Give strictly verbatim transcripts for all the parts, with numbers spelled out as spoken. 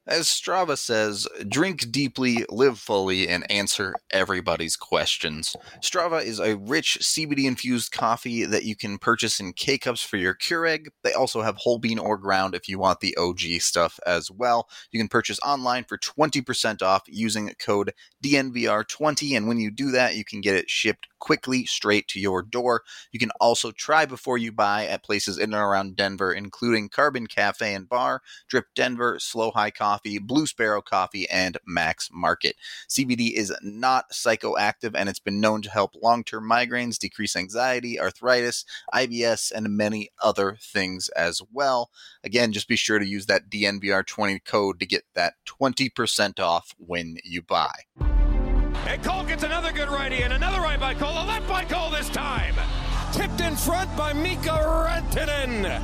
As Strava says, drink deeply, live fully, and answer everybody's questions. Strava is a rich C B D-infused coffee that you can purchase in K-Cups for your Keurig. They also have whole bean or ground if you want the O G stuff as well. You can purchase online for twenty percent off using code D N V R twenty, and when you do that, you can get it shipped quickly straight to your door. You can also try before you buy at places in and around Denver, including Carbon Cafe and Bar, Drip Denver, Slow High Coffee, Blue Sparrow Coffee, and Max Market. C B D is not psychoactive, and it's been known to help long-term migraines, decrease anxiety, arthritis, I B S, and many other things as well. Again, just be sure to use that D N V R twenty code to get that twenty percent off when you buy. And Cole gets another good righty, and another right by Cole, a left by Cole this time. Tipped in front by Mika Rantanen.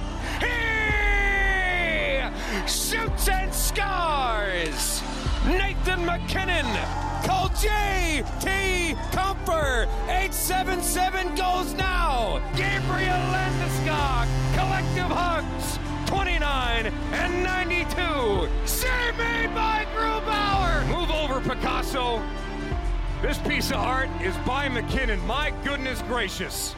He shoots and scores. Nathan MacKinnon. Cole J T Comfer. eight seven seven goes now. Gabriel Landeskog. Collective hugs. twenty-nine and ninety-two. City made by Grubauer. Move over, Picasso. This piece of art is by McKinnon. My goodness gracious.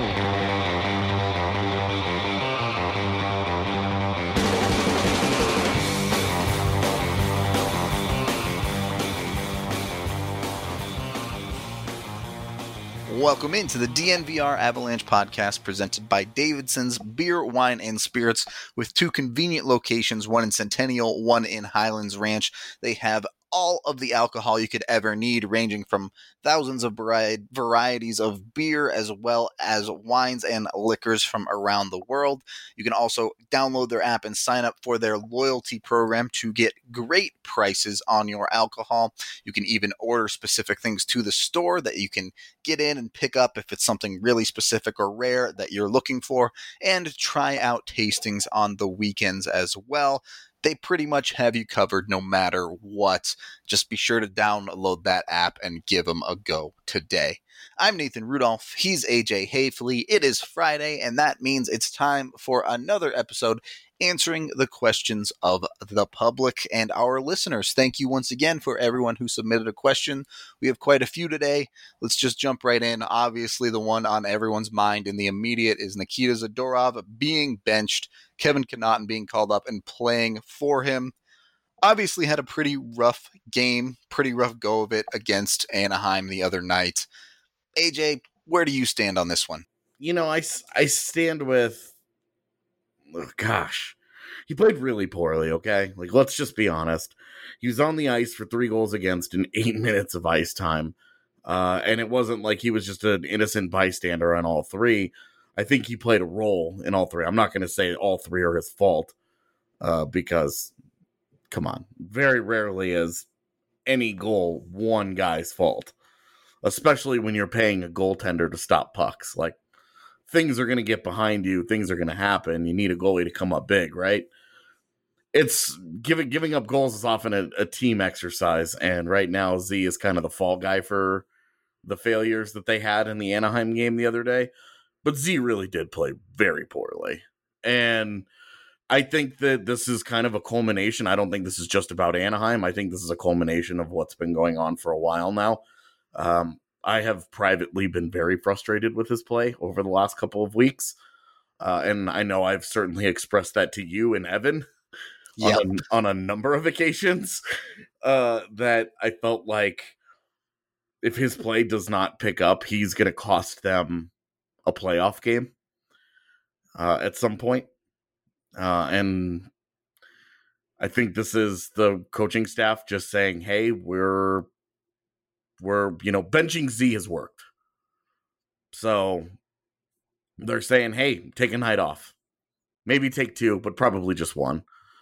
Welcome into the D N V R Avalanche podcast presented by Davidson's Beer, Wine, and Spirits with two convenient locations, one in Centennial, one in Highlands Ranch. They have all of the alcohol you could ever need, ranging from thousands of vari- varieties of beer as well as wines and liquors from around the world. You can also download their app and sign up for their loyalty program to get great prices on your alcohol. You can even order specific things to the store that you can get in and pick up if it's something really specific or rare that you're looking for, and try out tastings on the weekends as well. They pretty much have you covered no matter what. Just be sure to download that app and give them a go today. I'm Nathan Rudolph. He's A J Hayfley. It is Friday, and that means it's time for another episode answering the questions of the public and our listeners. Thank you once again for everyone who submitted a question. We have quite a few today. Let's just jump right in. Obviously, the one on everyone's mind in the immediate is Nikita Zadorov being benched, Kevin Connauton being called up and playing for him. Obviously had a pretty rough game, pretty rough go of it against Anaheim the other night. A J, where do you stand on this one? You know, I, I stand with, oh, gosh, he played really poorly, okay? Like, let's just be honest. He was on the ice for three goals against in eight minutes of ice time. Uh, and it wasn't like he was just an innocent bystander on all three. I think he played a role in all three. I'm not going to say all three are his fault, uh, because, come on, very rarely is any goal one guy's fault, especially when you're paying a goaltender to stop pucks. Like, things are going to get behind you. Things are going to happen. You need a goalie to come up big, right? It's giving giving up goals is often a, a team exercise, and right now Z is kind of the fall guy for the failures that they had in the Anaheim game the other day. But Z really did play very poorly. And I think that this is kind of a culmination. I don't think this is just about Anaheim. I think this is a culmination of what's been going on for a while now. Um, I have privately been very frustrated with his play over the last couple of weeks. Uh, and I know I've certainly expressed that to you and Evan yep. on, a, on a number of occasions, uh, that I felt like if his play does not pick up, he's going to cost them a playoff game uh, at some point. Uh, and I think this is the coaching staff just saying, hey, we're, we're, you know, benching Z has worked. So they're saying, hey, take a night off. Maybe take two, but probably just one.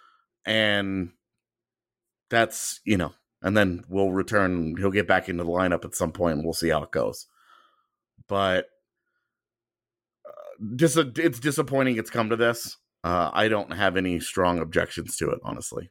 And that's, you know, and then we'll return. He'll get back into the lineup at some point and we'll see how it goes. But uh, dis- it's disappointing it's come to this. Uh, I don't have any strong objections to it, honestly.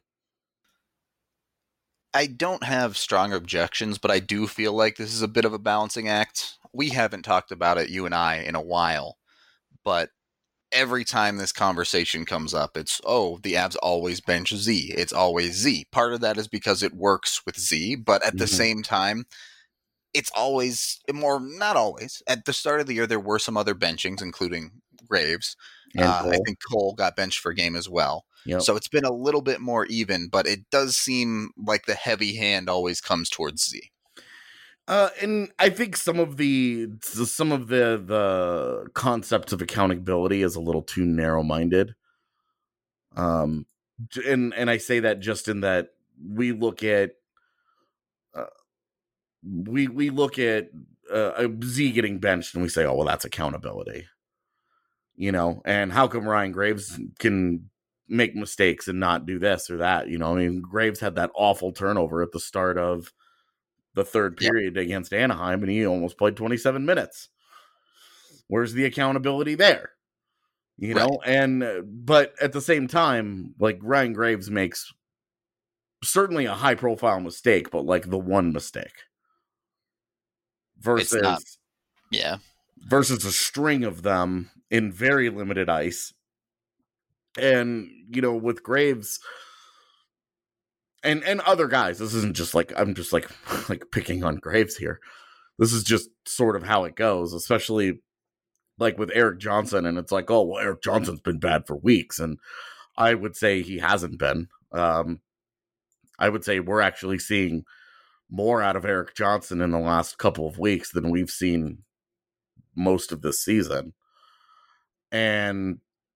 I don't have strong objections, but I do feel like this is a bit of a balancing act. We haven't talked about it, you and I, in a while, but every time this conversation comes up, it's, oh, the Avs always bench Z. It's always Z. Part of that is because it works with Z, but at the Mhm. same time, it's always more, not always. At the start of the year, there were some other benchings, including Graves. And Uh, I Cole. think Cole got benched for a game as well. Yep. So it's been a little bit more even, but it does seem like the heavy hand always comes towards Z. Uh, and I think some of the some of the the concepts of accountability is a little too narrow minded. Um, and and I say that just in that we look at uh, we we look at uh, Z getting benched and we say, oh well, that's accountability, you know. And how come Ryan Graves can make mistakes and not do this or that? You know, I mean, Graves had that awful turnover at the start of the third period yep. against Anaheim, and he almost played twenty-seven minutes. Where's the accountability there? You know, right. and uh, but at the same time, like Ryan Graves makes certainly a high profile mistake, but like the one mistake versus not, yeah, versus a string of them in very limited ice. And you know, with Graves and and other guys, this isn't just like I'm just like like picking on Graves here. This is just sort of how it goes, especially like with Erik Johnson. And it's like, oh, well, Erik Johnson's been bad for weeks. And I would say he hasn't been. Um, I would say we're actually seeing more out of Erik Johnson in the last couple of weeks than we've seen most of this season. And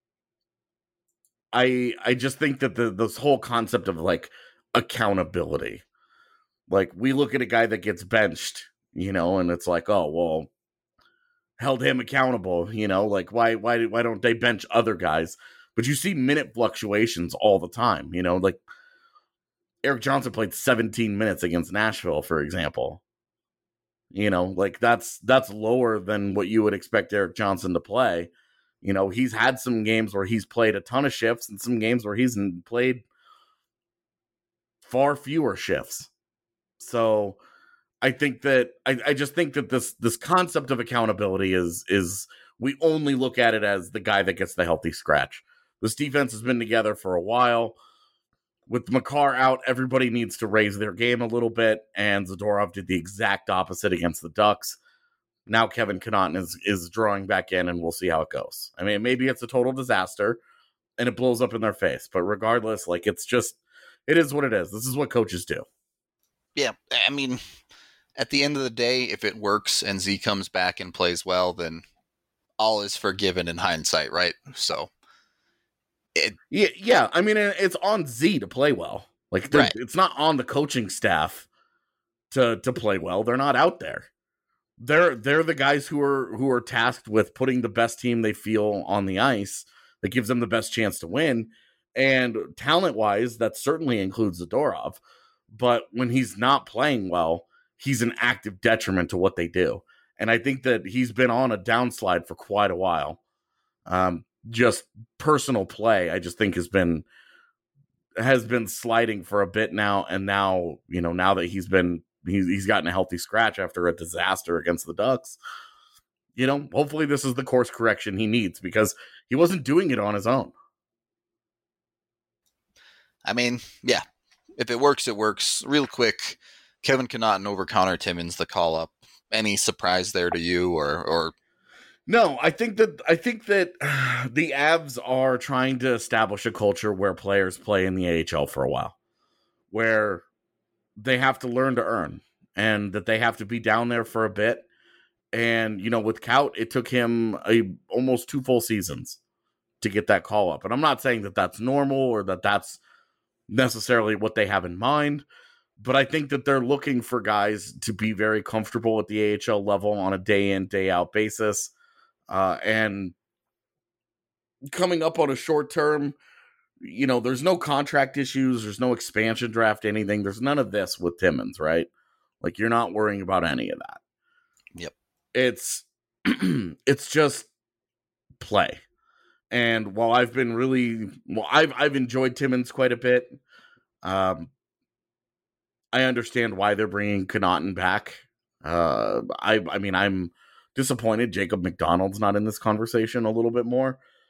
I I just think that the this whole concept of like accountability, like we look at a guy that gets benched, you know, and it's like, oh, well, held him accountable, you know, like why why why don't they bench other guys? But you see minute fluctuations all the time, you know, like Erik Johnson played seventeen minutes against Nashville, for example. You know, like that's that's lower than what you would expect Erik Johnson to play. You know, he's had some games where he's played a ton of shifts and some games where he's played far fewer shifts. So I think that I, I just think that this this concept of accountability is is we only look at it as the guy that gets the healthy scratch. This defense has been together for a while. With Makar out, everybody needs to raise their game a little bit, and Zadorov did the exact opposite against the Ducks. Now Kevin Connauton is, is drawing back in, and we'll see how it goes. I mean, maybe it's a total disaster, and it blows up in their face. But regardless, like, it's just, it is what it is. This is what coaches do. Yeah, I mean, at the end of the day, if it works and Z comes back and plays well, then all is forgiven in hindsight, right? So, it, yeah, yeah. I mean, it's on Z to play well. Like, right. It's not on the coaching staff to to play well. They're not out there. They're they're the guys who are who are tasked with putting the best team they feel on the ice that gives them the best chance to win. And talent-wise, that certainly includes Zadorov. But when he's not playing well, he's an active detriment to what they do. And I think that he's been on a downslide for quite a while. Um, just personal play, I just think has been has been sliding for a bit now. And now, you know, now that he's been he's he's gotten a healthy scratch after a disaster against the Ducks, you know, hopefully this is the course correction he needs, because he wasn't doing it on his own. I mean, yeah, if it works, it works. Real quick, Kevin Connauton over Connor Timmins, the call up. Any surprise there to you, or or? No, I think that I think that the Avs are trying to establish a culture where players play in the A H L for a while, where they have to learn to earn, and that they have to be down there for a bit. And you know, with Kaut, it took him a almost two full seasons to get that call up. And I'm not saying that that's normal or that that's necessarily what they have in mind, but I think that they're looking for guys to be very comfortable at the A H L level on a day in, day out basis. Uh, and coming up on a short term, you know, there's no contract issues. There's no expansion draft, anything. There's none of this with Timmins, right? Like, you're not worrying about any of that. Yep. It's, it's just play. And while I've been really, well, I've, I've enjoyed Timmins quite a bit. Um, I understand why they're bringing Connauton back. Uh, I, I mean, I'm disappointed Jacob McDonald's not in this conversation a little bit more,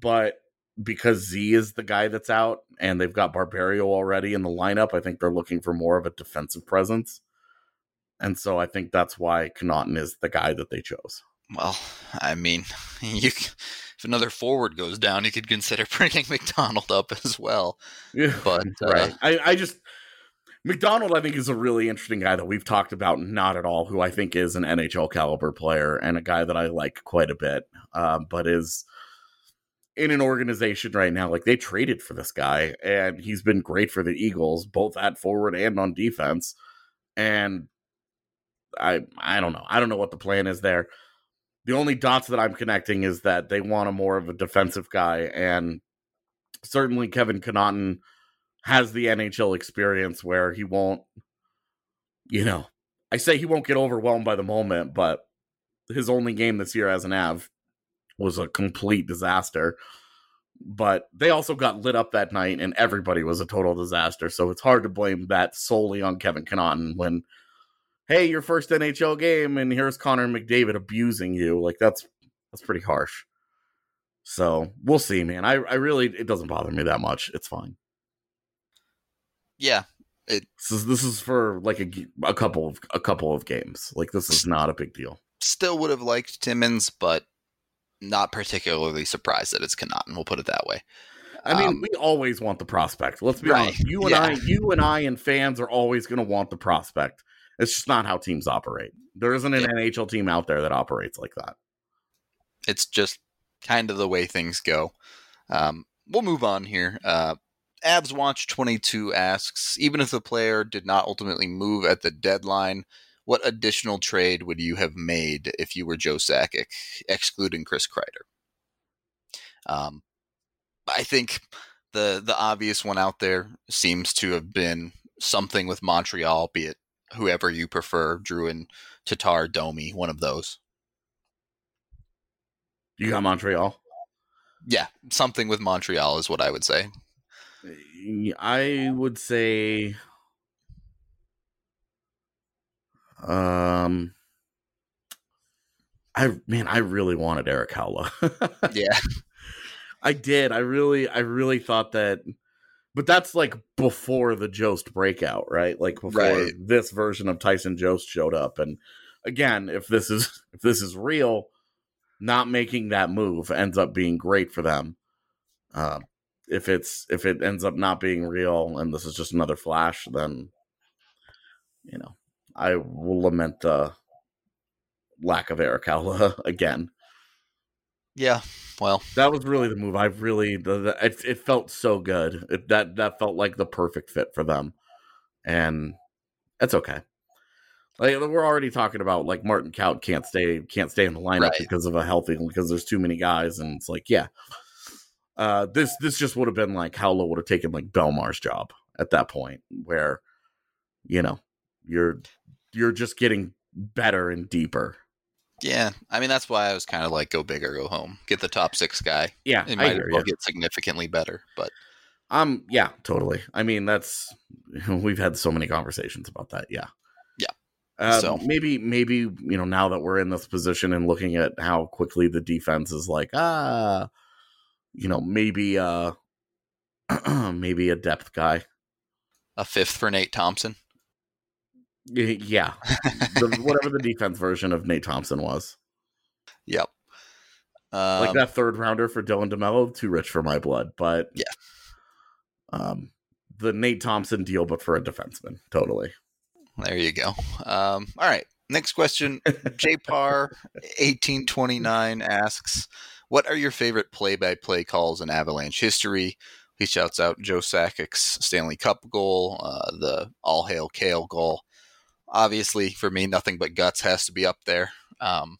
but because Z is the guy that's out and they've got Barberio already in the lineup, I think they're looking for more of a defensive presence. And so I think that's why Connaughton is the guy that they chose. Well, I mean, you, if another forward goes down, you could consider bringing McDonald up as well. Yeah, but uh, right. I, I just McDonald, I think, is a really interesting guy that we've talked about not at all, who I think is an N H L caliber player and a guy that I like quite a bit, uh, but is in an organization right now. Like, they traded for this guy, and he's been great for the Eagles, both at forward and on defense. And I, I don't know. I don't know what the plan is there. The only dots that I'm connecting is that they want a more of a defensive guy, and certainly Kevin Connaughton has the N H L experience where he won't, you know, I say he won't get overwhelmed by the moment, but his only game this year as an Av was a complete disaster. But they also got lit up that night, and everybody was a total disaster, so it's hard to blame that solely on Kevin Connaughton when, hey, your first N H L game, and here's Connor McDavid abusing you. Like, that's that's pretty harsh. So, we'll see, man. I, I really, it doesn't bother me that much. It's fine. Yeah. It, this is, this is for, like, a, a couple of a couple of games. Like, this is not a big deal. Still would have liked Timmins, but not particularly surprised that it's Connaughton. We'll put it that way. I mean, um, we always want the prospect. Let's be right, honest. You and yeah. I, you and I and fans are always going to want the prospect. It's just not how teams operate. There isn't an yep. N H L team out there that operates like that. It's just kind of the way things go. Um, we'll move on here. Uh, Abs Watch twenty-two asks, even if the player did not ultimately move at the deadline, what additional trade would you have made if you were Joe Sakic, excluding Chris Kreider? Um, I think the the obvious one out there seems to have been something with Montreal, be it whoever you prefer, Drouin, Tatar, Domi, one of those. You got Montreal? Yeah, something with Montreal is what I would say. I would say, um, I man, I really wanted Erik Haula. Yeah, I did. I really, I really thought that, but that's like before the Jost breakout, right? Like before right. this version of Tyson Jost showed up. And again, if this is if this is real, not making that move ends up being great for them. Uh, if it's if it ends up not being real and this is just another flash, then you know I will lament the lack of Erik Haula again. Yeah, well, that was really the move. I really the, the, it, it felt so good. It, that that felt like the perfect fit for them, and it's okay. Like we're already talking about, like Martin Kaut can't stay can't stay in the lineup right. because of a healthy because there's too many guys, and it's like yeah, uh, this this just would have been like Haula would have taken like Belmar's job at that point, where you know you're you're just getting better and deeper. Yeah, I mean that's why I was kind of like go big or go home. Get the top six guy. Yeah, it might I as well get significantly better, but um, yeah, totally. I mean that's we've had so many conversations about that. Yeah. Uh, so maybe, maybe, you know, now that we're in this position and looking at how quickly the defense is like, ah, you know, maybe, uh, maybe a depth guy, a fifth for Nate Thompson. Yeah. the, whatever the defense version of Nate Thompson was. Yep. Um, like that third rounder for Dylan DeMello, too rich for my blood, but yeah. Um, the Nate Thompson deal, but for a defenseman. Totally. There you go. Um, all right. Next question. J P A R eighteen twenty-nine asks, what are your favorite play-by-play calls in Avalanche history? He shouts out Joe Sakic's Stanley Cup goal, uh, the All Hail Kale goal. Obviously, for me, nothing but guts has to be up there. Um,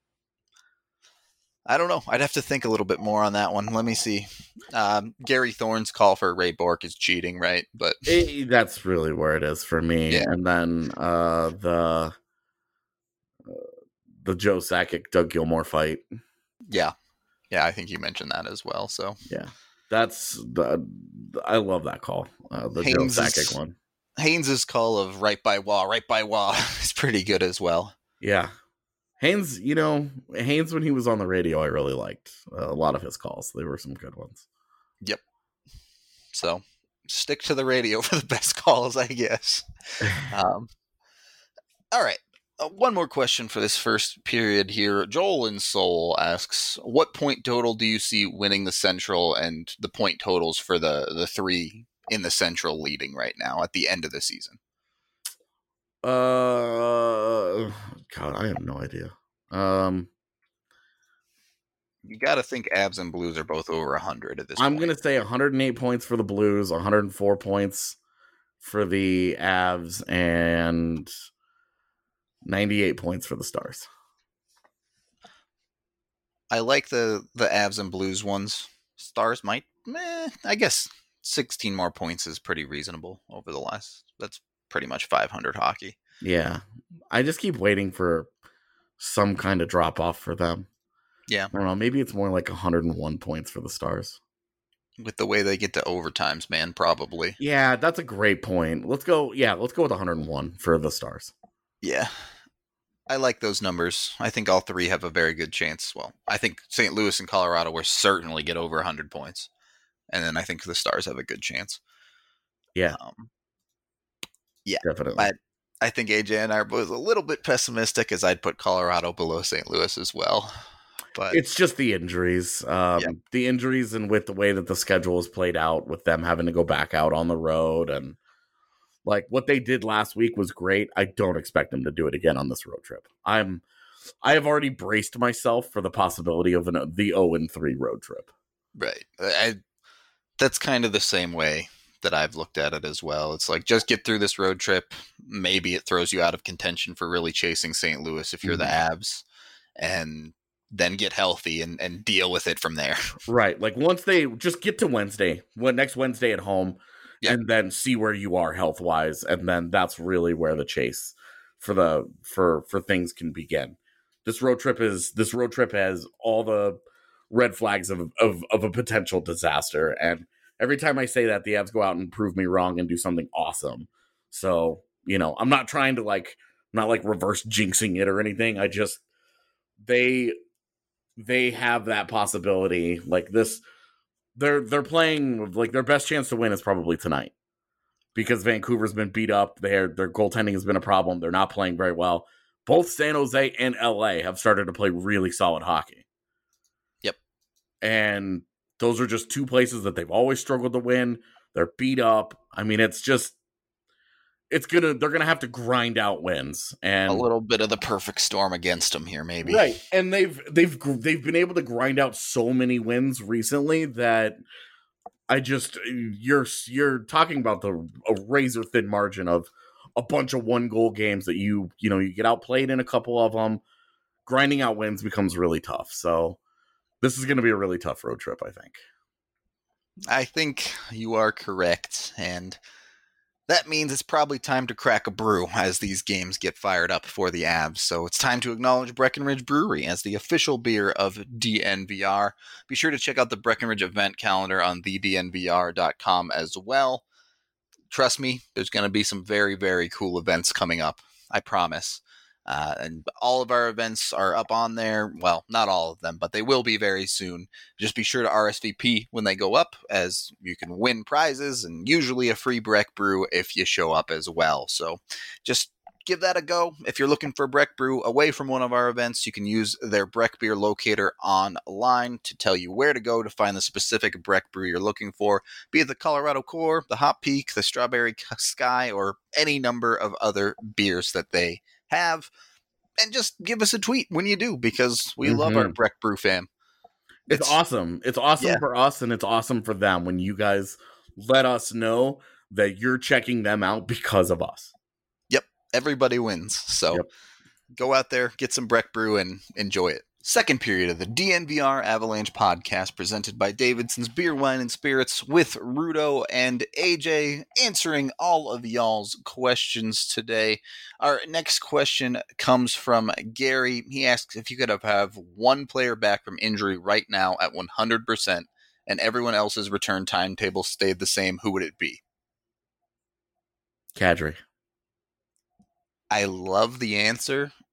I don't know. I'd have to think a little bit more on that one. Let me see. Um, Gary Thorne's call for Ray Bourque is cheating, right? But it, that's really where it is for me. Yeah. And then uh, the uh, the Joe Sakic Doug Gilmour fight. Yeah, yeah, I think you mentioned that as well. So yeah, that's the I love that call. Uh, the Haynes Joe Sakic one. Haynes's call of right by Wah, right by Wah is pretty good as well. Yeah. Haynes, you know, Haynes, when he was on the radio, I really liked uh, a lot of his calls. They were some good ones. Yep. So stick to the radio for the best calls, I guess. Um, all right. Uh, one more question for this first period here. Joel in Seoul asks, what point total do you see winning the Central, and the point totals for the, the three in the Central leading right now at the end of the season? Uh, God, I have no idea. Um, you got to think Avs and Blues are both over one hundred at this I'm point. going to say one hundred eight points for the Blues, one hundred four points for the Avs, and ninety-eight points for the Stars. I like the, the Avs and Blues ones. Stars might, meh, I guess sixteen more points is pretty reasonable over the last. That's pretty much five hundred hockey. Yeah. I just keep waiting for some kind of drop off for them. Yeah. I don't know. Maybe it's more like one hundred one points for the Stars. With the way they get to overtimes, man, probably. Yeah, that's a great point. Let's go. Yeah, let's go with one hundred one for the Stars. Yeah. I like those numbers. I think all three have a very good chance. Well, I think Saint Louis and Colorado will certainly get over one hundred points. And then I think the Stars have a good chance. Yeah. Um, yeah. Definitely. I, I think A J and I are both a little bit pessimistic, as I'd put Colorado below Saint Louis as well. But it's just the injuries. Um, yeah. The injuries, and with the way that the schedule is played out, with them having to go back out on the road, and like what they did last week was great. I don't expect them to do it again on this road trip. I'm, I have already braced myself for the possibility of an the oh and three road trip. Right. I, that's kind of the same way that I've looked at it as well. It's like, just get through this road trip. Maybe it throws you out of contention for really chasing Saint Louis if you're mm-hmm. the Avs, and then get healthy and, and deal with it from there. Right. Like once they just get to Wednesday, when next Wednesday at home, yeah. and then see where you are health wise. And then that's really where the chase for the, for, for things can begin. This road trip is, this road trip has all the red flags of, of, of a potential disaster. And every time I say that, the Avs go out and prove me wrong and do something awesome. So, you know, I'm not trying to like, not like reverse jinxing it or anything. I just, they, they have that possibility. Like this, they're they're playing like their best chance to win is probably tonight, because Vancouver's been beat up. Their their goaltending has been a problem. They're not playing very well. Both San Jose and L A have started to play really solid hockey. Yep. And those are just two places that they've always struggled to win. They're beat up. I mean, it's just It's gonna. They're gonna have to grind out wins, and a little bit of the perfect storm against them here, maybe. Right, and they've they've they've been able to grind out so many wins recently that I just you're you're talking about the a razor thin margin of a bunch of one goal games that you you know you get outplayed in a couple of them. Grinding out wins becomes really tough. So this is going to be a really tough road trip, I think. I think you are correct, and that means it's probably time to crack a brew as these games get fired up for the Avs. So it's time to acknowledge Breckenridge Brewery as the official beer of D N V R. Be sure to check out the Breckenridge event calendar on the d n v r dot com as well. Trust me, there's going to be some very, very cool events coming up. I promise. Uh, and all of our events are up on there. Well, not all of them, but they will be very soon. Just be sure to R S V P when they go up, as you can win prizes and usually a free Breck Brew if you show up as well. So just give that a go. If you're looking for Breck Brew away from one of our events, you can use their Breck Beer locator online to tell you where to go to find the specific Breck Brew you're looking for, be it the Colorado Core, the Hot Peak, the Strawberry Sky, or any number of other beers that they have. And just give us a tweet when you do, because we mm-hmm. love our Breck Brew fam. It's, it's awesome. It's awesome yeah. for us, and it's awesome for them when you guys let us know that you're checking them out because of us. Yep. Everybody wins. So yep. go out there, get some Breck Brew, and enjoy it. Second period of the D N V R Avalanche podcast, presented by Davidson's Beer, Wine, and Spirits, with Rudo and A J answering all of y'all's questions today. Our next question comes from Gary. He asks if you could have, have one player back from injury right now at one hundred percent and everyone else's return timetable stayed the same, who would it be? Kadri. I love the answer.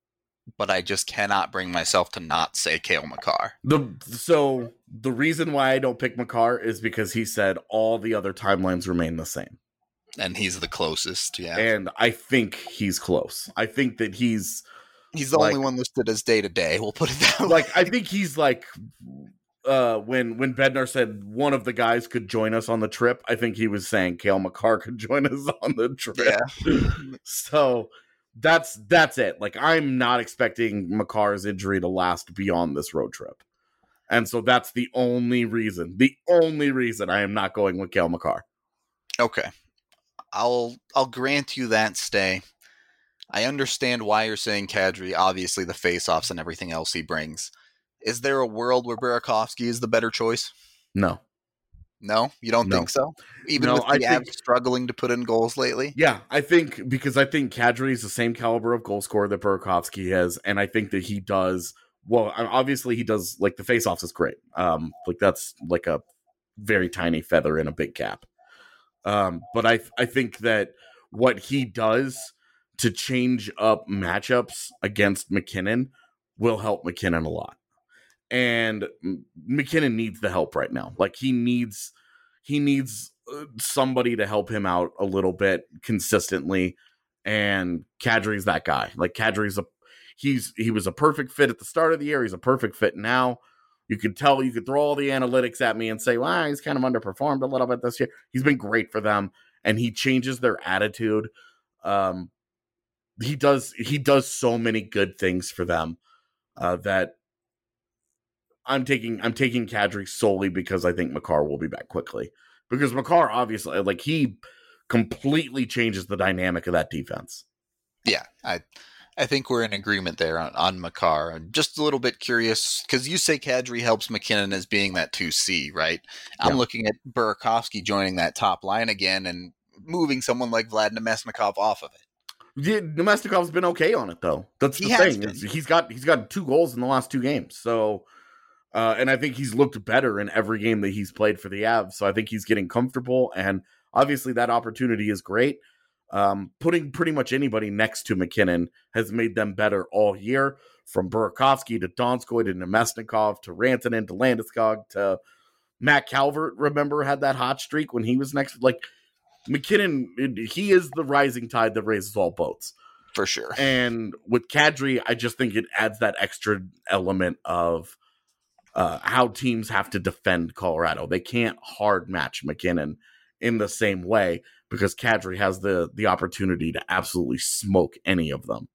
but I just cannot bring myself to not say Cale Makar. The so the reason why I don't pick Makar is because he said all the other timelines remain the same. And he's the closest, yeah. And I think he's close. I think that he's he's the like, only one listed as day to day. We'll put it that way. Like I think he's like uh, when when Bednar said one of the guys could join us on the trip. I think he was saying Cale Makar could join us on the trip. Yeah. So that's that's it. Like I'm not expecting Makar's injury to last beyond this road trip, and so that's the only reason. The only reason I am not going with Cale Makar. Okay. I'll I'll grant you that stay. I understand why you're saying Kadri, obviously the face-offs and everything else he brings. Is there a world where Burakovsky is the better choice? No. No? You don't no. think so? Even no, with the I Avs think, struggling to put in goals lately? Yeah, I think because I think Kadri is the same caliber of goal scorer that Burakovsky has, and I think that he does, well, obviously he does, like the face-offs is great. Um, like that's like a very tiny feather in a big cap. Um, but I I think that what he does to change up matchups against MacKinnon will help MacKinnon a lot. And MacKinnon needs the help right now. Like he needs he needs somebody to help him out a little bit consistently. And Kadri's that guy. Like Kadri's a he's he was a perfect fit at the start of the year. He's a perfect fit now. You could tell, you could throw all the analytics at me and say, well, he's kind of underperformed a little bit this year. He's been great for them, and he changes their attitude. Um, he does he does so many good things for them uh, that I'm taking I'm taking Kadri solely because I think Makar will be back quickly. Because Makar, obviously, like he completely changes the dynamic of that defense. Yeah, I I think we're in agreement there on, on Makar. I'm just a little bit curious, because you say Kadri helps MacKinnon as being that two C, right? I'm Yeah. looking at Burakovsky joining that top line again and moving someone like Vlad Nemesnikov off of it. Yeah, Nemesnikov's been okay on it, though. That's the He has thing. been. Is he's got he's got two goals in the last two games. So, uh, and I think he's looked better in every game that he's played for the Avs. So I think he's getting comfortable, and obviously that opportunity is great. Um, putting pretty much anybody next to MacKinnon has made them better all year, from Burakovsky to Donskoy to Nemesnikov to Rantanen to Landeskog to Matt Calvert. Remember, had that hot streak when he was next. Like MacKinnon, he is the rising tide that raises all boats. For sure. And with Kadri, I just think it adds that extra element of uh, how teams have to defend Colorado. They can't hard match MacKinnon in the same way, because Kadri has the the opportunity to absolutely smoke any of them.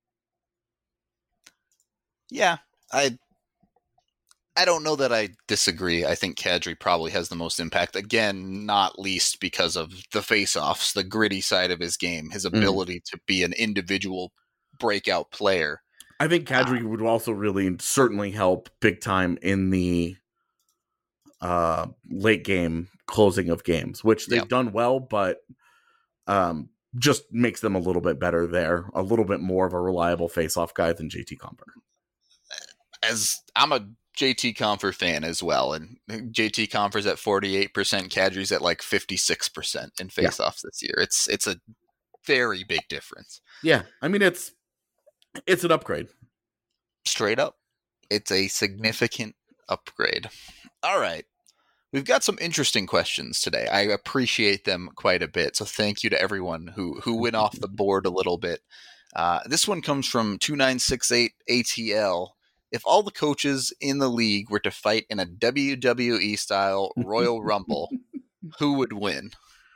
Yeah, I I don't know that I disagree. I think Kadri probably has the most impact. Again, not least because of the face-offs, the gritty side of his game, his ability mm. to be an individual breakout player. I think Kadri uh, would also really certainly help big time in the uh, late game closing of games, which they've yep. done well, but um, just makes them a little bit better there, a little bit more of a reliable face-off guy than J T Compher. As I'm a J T Compher fan as well, and J T Compher's at forty-eight percent, Kadri's at like fifty-six percent in face-offs yeah. this year. It's it's a very big difference. Yeah, I mean it's it's an upgrade. Straight up. It's a significant upgrade. All right. We've got some interesting questions today. I appreciate them quite a bit. So thank you to everyone who, who went off the board a little bit. Uh, this one comes from two nine six eight A T L. If all the coaches in the league were to fight in a W W E style Royal Rumble, who would win?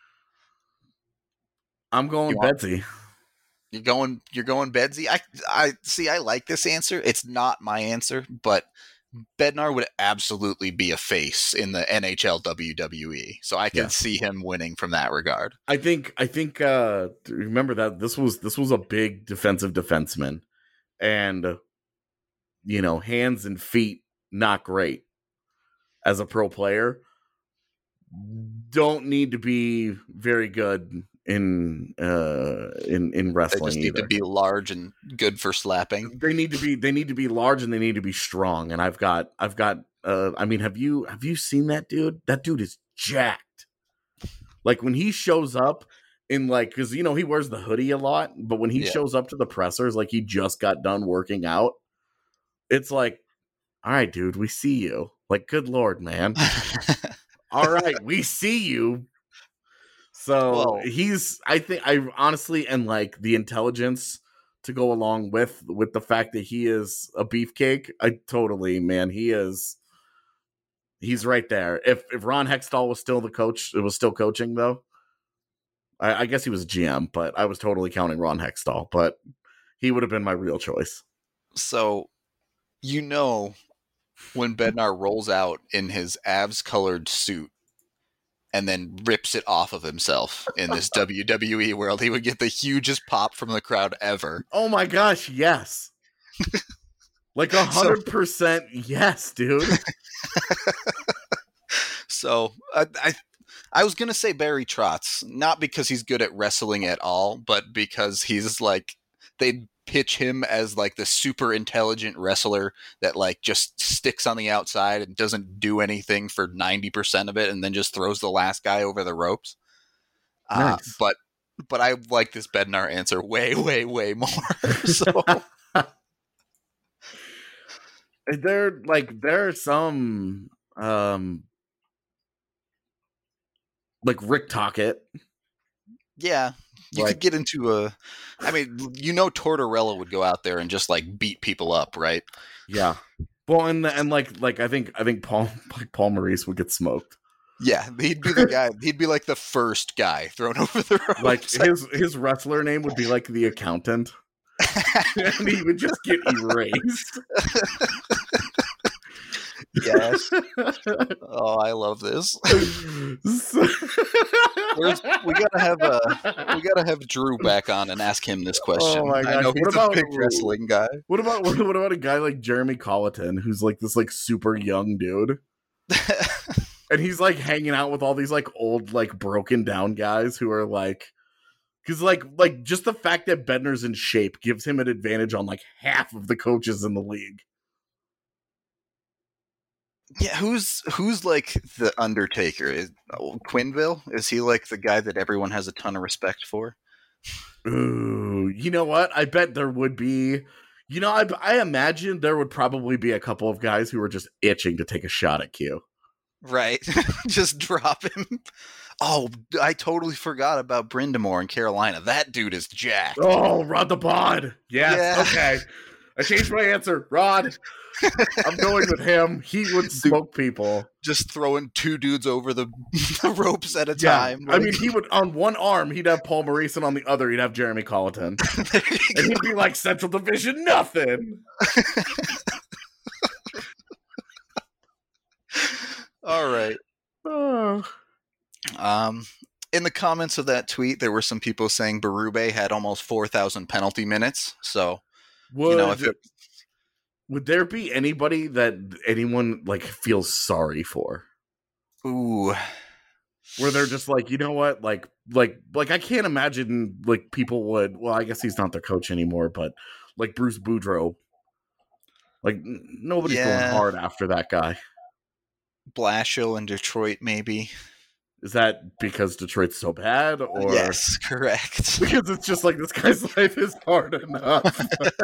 I'm going Bedsy. You're going you're going Bedsy? I I see I like this answer. It's not my answer, but Bednar would absolutely be a face in the N H L W W E. So I can yeah. see him winning from that regard. I think I think uh, remember that this was this was a big defensive defenseman, and uh, you know, hands and feet not great as a pro player. Don't need to be very good in uh in in wrestling. They just need either. to be large and good for slapping. They need to be they need to be large and they need to be strong. And I've got I've got uh I mean, have you have you seen that dude? That dude is jacked. Like when he shows up in like, because you know he wears the hoodie a lot, but when he yeah. shows up to the pressers like he just got done working out, it's like, all right, dude, we see you. Like, good Lord, man. All right, we see you. So Well, he's, I think, I honestly, and like the intelligence to go along with with the fact that he is a beefcake. I totally, man, he is. He's right there. If if Ron Hextall was still the coach, it was still coaching though. I, I guess he was G M, but I was totally counting Ron Hextall. But he would have been my real choice. So, you know, when Bednar rolls out in his Avs-colored suit and then rips it off of himself in this W W E world, he would get the hugest pop from the crowd ever. Oh my gosh, yes. Like a hundred percent yes, dude. So I, I I was gonna say Barry Trotz, not because he's good at wrestling at all, but because he's like they pitch him as like the super intelligent wrestler that like just sticks on the outside and doesn't do anything for ninety percent of it and then just throws the last guy over the ropes. Nice. Uh, but but I like this Bednar answer way, way, way more. So there like there are some um like Rick Tocchet. yeah. You Like- could get into a I mean, you know Tortorella would go out there and just like beat people up, right? Yeah. Well, and and like like I think I think Paul like Paul Maurice would get smoked. Yeah, he'd be the guy. He'd be like the first guy thrown over the ropes. Like his his wrestler name would be like the Accountant, and he would just get erased. Yes. Oh, I love this. So- Where's, we gotta have uh, we gotta have Drew back on and ask him this question. Oh my I gosh, know what he's about- a big wrestling guy. What about what, what about a guy like Jeremy Colleton, who's like this like super young dude, and he's like hanging out with all these like old like broken down guys who are like, because like like just the fact that Bednar's in shape gives him an advantage on like half of the coaches in the league. Yeah, who's who's like the Undertaker? Is oh, Quinville? Is he like the guy that everyone has a ton of respect for? Ooh, you know what? I bet there would be. You know, I I imagine there would probably be a couple of guys who were just itching to take a shot at Q. Right, just drop him. Oh, I totally forgot about Brindamore in Carolina. That dude is jacked. Oh, Rod the Bod. Yes. Yeah. Okay. I changed my answer. Rod. I'm going with him. He would smoke people. Just throwing two dudes over the, the ropes at a Yeah. time. I mean, he would, on one arm, he'd have Paul Maurice, and on the other, he'd have Jeremy Colleton. And he'd be like, Central Division, nothing. All right. Oh. Um, in the comments of that tweet, there were some people saying Berube had almost four thousand penalty minutes. So, Would, you know, if it, would there be anybody that anyone, like, feels sorry for? ooh, Where they're just like, you know what? Like, like, like, I can't imagine, like, people would, well, I guess he's not their coach anymore, but, like, Bruce Boudreau. Like, n- nobody's Yeah. going hard after that guy. Blashill in Detroit, maybe. Is that because Detroit's so bad, or Yes, correct. because it's just like this guy's life is hard enough?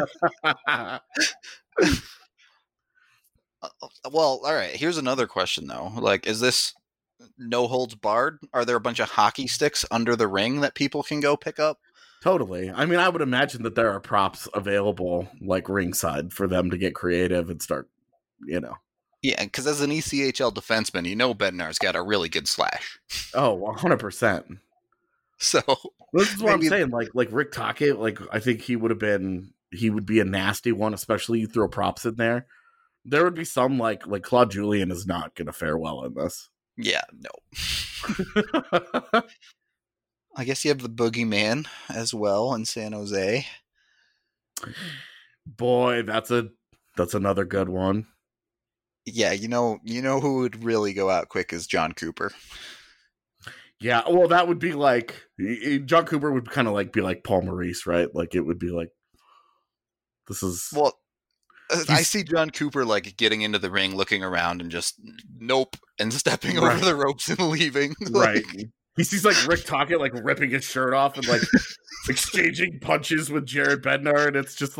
Well, all right. Here's another question, though. Like, is this no holds barred? Are there a bunch of hockey sticks under the ring that people can go pick up? Totally. I mean, I would imagine that there are props available, like ringside, for them to get creative and start, you know. Yeah, because as an E C H L defenseman, you know Bednar's got a really good slash. Oh, one hundred percent. So This is what Maybe- I'm saying. Like, like Rick Tocchet, like, I think he would have been, he would be a nasty one, especially you throw props in there. There would be some, like, like Claude Julien is not going to fare well in this. yeah, no. I guess you have the Boogeyman as well in San Jose. Boy, that's a, that's another good one. Yeah, you know, you know who would really go out quick is John Cooper. Yeah, well, that would be like John Cooper would kind of like be like Paul Maurice, right? Like it would be like this is Well, uh, I He's- see John Cooper like getting into the ring, looking around, and just nope, and stepping Right. over the ropes and leaving. Like, right. He sees like Rick Tocchet like ripping his shirt off and like exchanging punches with Jared Bednar, and it's just like,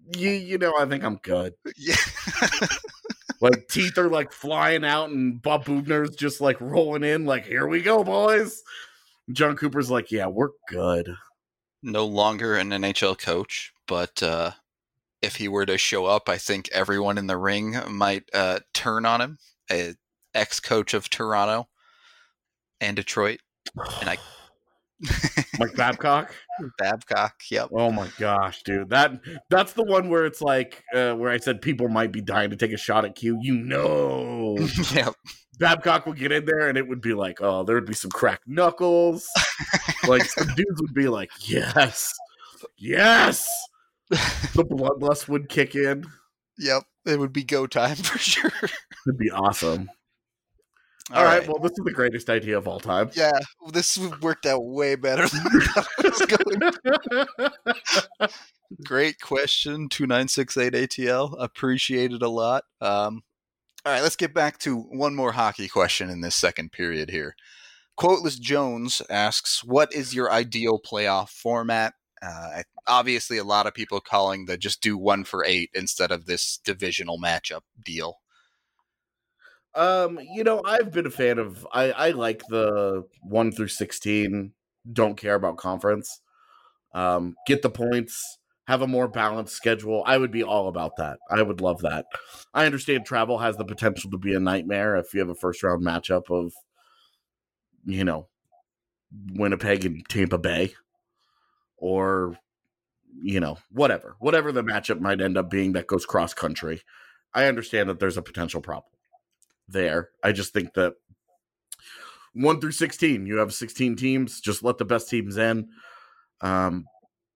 you, you know, I think I'm good. Yeah. Like, teeth are, like, flying out, and Bob Bubner's just, like, rolling in, like, here we go, boys. John Cooper's like, yeah, we're good. No longer an N H L coach, but uh, if he were to show up, I think everyone in the ring might uh, turn on him. A ex-coach of Toronto and Detroit. And I... Mike Babcock? Babcock, yep. Oh my gosh, dude. That that's the one where it's like uh, where I said people might be dying to take a shot at Q. You know. Yep. Babcock would get in there and it would be like, oh, there would be some cracked knuckles. Like some dudes would be like, yes. Yes. The bloodlust would kick in. Yep. It would be go time for sure. It'd be awesome. All, all right. right. Well, this is the greatest idea of all time. Yeah, this worked out way better than I was going. Great question, two nine six eight A T L. Appreciate it a lot. Um, all right, let's get back to one more hockey question in this second period here. Quoteless Jones asks, what is your ideal playoff format? Uh, obviously, a lot of people calling the just do one for eight instead of this divisional matchup deal. Um, you know, I've been a fan of, I, I like the one through sixteen, don't care about conference. Um, get the points, have a more balanced schedule. I would be all about that. I would love that. I understand travel has the potential to be a nightmare if you have a first round matchup of, you know, Winnipeg and Tampa Bay or, you know, whatever, whatever the matchup might end up being that goes cross country. I understand that there's a potential problem there. I just think that one through sixteen, you have sixteen teams, just let the best teams in. Um,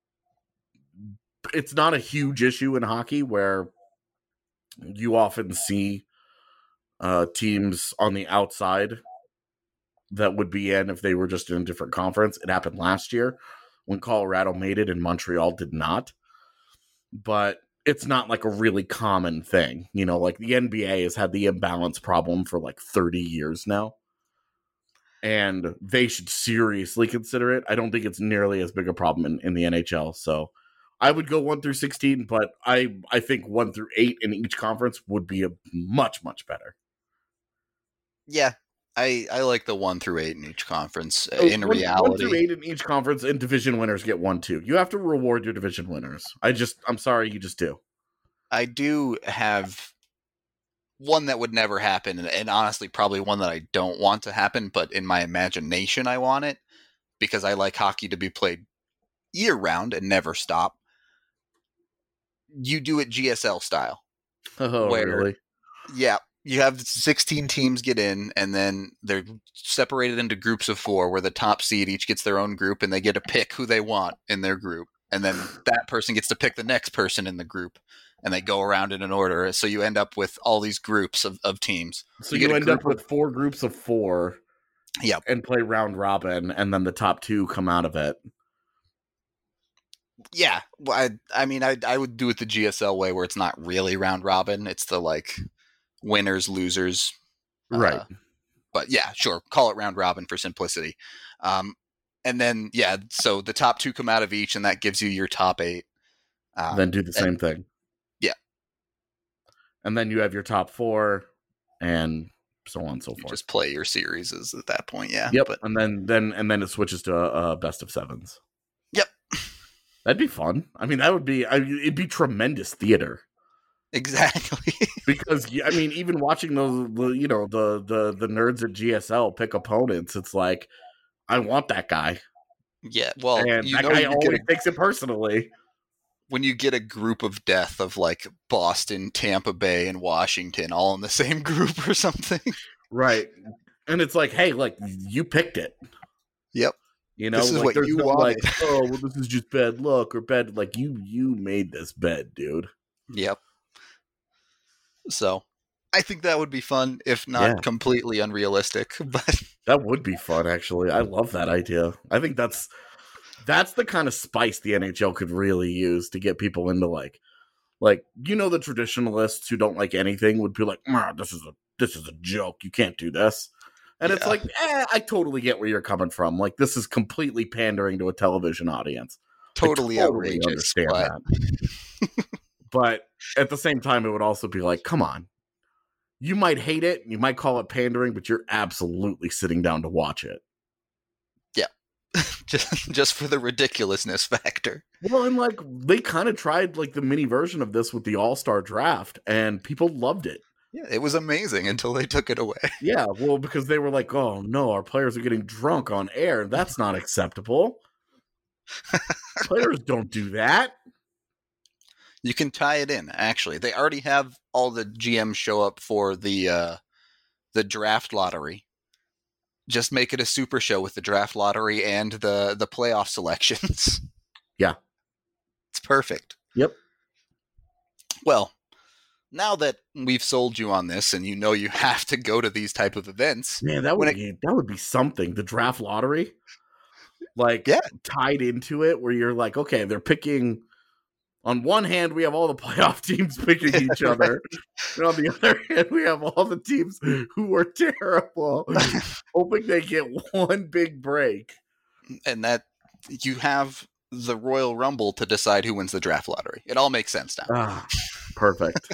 it's not a huge issue in hockey where you often see uh, teams on the outside that would be in if they were just in a different conference. It happened last year when Colorado made it and Montreal did not. But it's not like a really common thing. You know, like the N B A has had the imbalance problem for like thirty years now. And they should seriously consider it. I don't think it's nearly as big a problem in, in the N H L. So I would go one through sixteen, but I, I think one through eight in each conference would be a much, much better. Yeah, I, I like the one through eight in each conference. Uh, Oh, in one, reality, one through eight in each conference, and division winners get one, two. You have to reward your division winners. I just, I'm sorry, you just do. I do have one that would never happen, and, and honestly, probably one that I don't want to happen, but in my imagination, I want it because I like hockey to be played year round and never stop. You do it G S L style. Oh, where, really? Yeah. You have sixteen teams get in, and then they're separated into groups of four where the top seed each gets their own group, and they get to pick who they want in their group. And then that person gets to pick the next person in the group, and they go around in an order. So you end up with all these groups of, of teams. So you, you end up with four groups of four. Yep. And play round robin, and then the top two come out of it. Yeah. Well, I, I mean, I, I would do it the G S L way where it's not really round robin. It's the, like, winners, losers. Right. Uh, but yeah, sure. Call it round robin for simplicity. Um, and then, yeah, so the top two come out of each, and that gives you your top eight. Um, then do the same and, thing. Yeah. And then you have your top four, and so on and so you forth. Just play your series at that point, yeah. Yep. But, and then, then, and then it switches to a, a best of sevens. Yep. That'd be fun. I mean, that would be, I, it'd be tremendous theater. Exactly. Because I mean, even watching those, the, you know, the the the nerds at G S L pick opponents, it's like, I want that guy. Yeah, well, and you that know guy you always a, takes it personally. When you get a group of death of like Boston, Tampa Bay, and Washington all in the same group or something, right? And it's like, hey, like you picked it. Yep. You know, this is like, what you no, wanted. Like, oh, well, this is just bad luck or bad. Like you, you made this bed, dude. Yep. So, I think that would be fun, if not Yeah. completely unrealistic. But that would be fun, actually. I love that idea. I think that's that's the kind of spice the N H L could really use to get people into like, like you know, the traditionalists who don't like anything would be like, "This is a this is a joke. You can't do this." And yeah. It's like, eh, I totally get where you're coming from. Like, this is completely pandering to a television audience. Totally, totally outrageous. Understand but... that. But at the same time, it would also be like, come on. You might hate it, you might call it pandering, but you're absolutely sitting down to watch it. Yeah. just just for the ridiculousness factor. Well, and like they kind of tried like the mini version of this with the All-Star draft, and people loved it. Yeah, it was amazing until they took it away. Yeah, well, because they were like, oh no, our players are getting drunk on air. That's not acceptable. Players don't do that. You can tie it in, actually. They already have all the G Ms show up for the uh, the draft lottery. Just make it a super show with the draft lottery and the, the playoff selections. Yeah. It's perfect. Yep. Well, now that we've sold you on this and you know you have to go to these type of events. Man, that would it, be that would be something. The draft lottery. Like yeah. tied into it where you're like, okay, they're picking. On one hand, we have all the playoff teams picking each right. other. And on the other hand, we have all the teams who are terrible, hoping they get one big break. And that you have the Royal Rumble to decide who wins the draft lottery. It all makes sense now. Ah, perfect.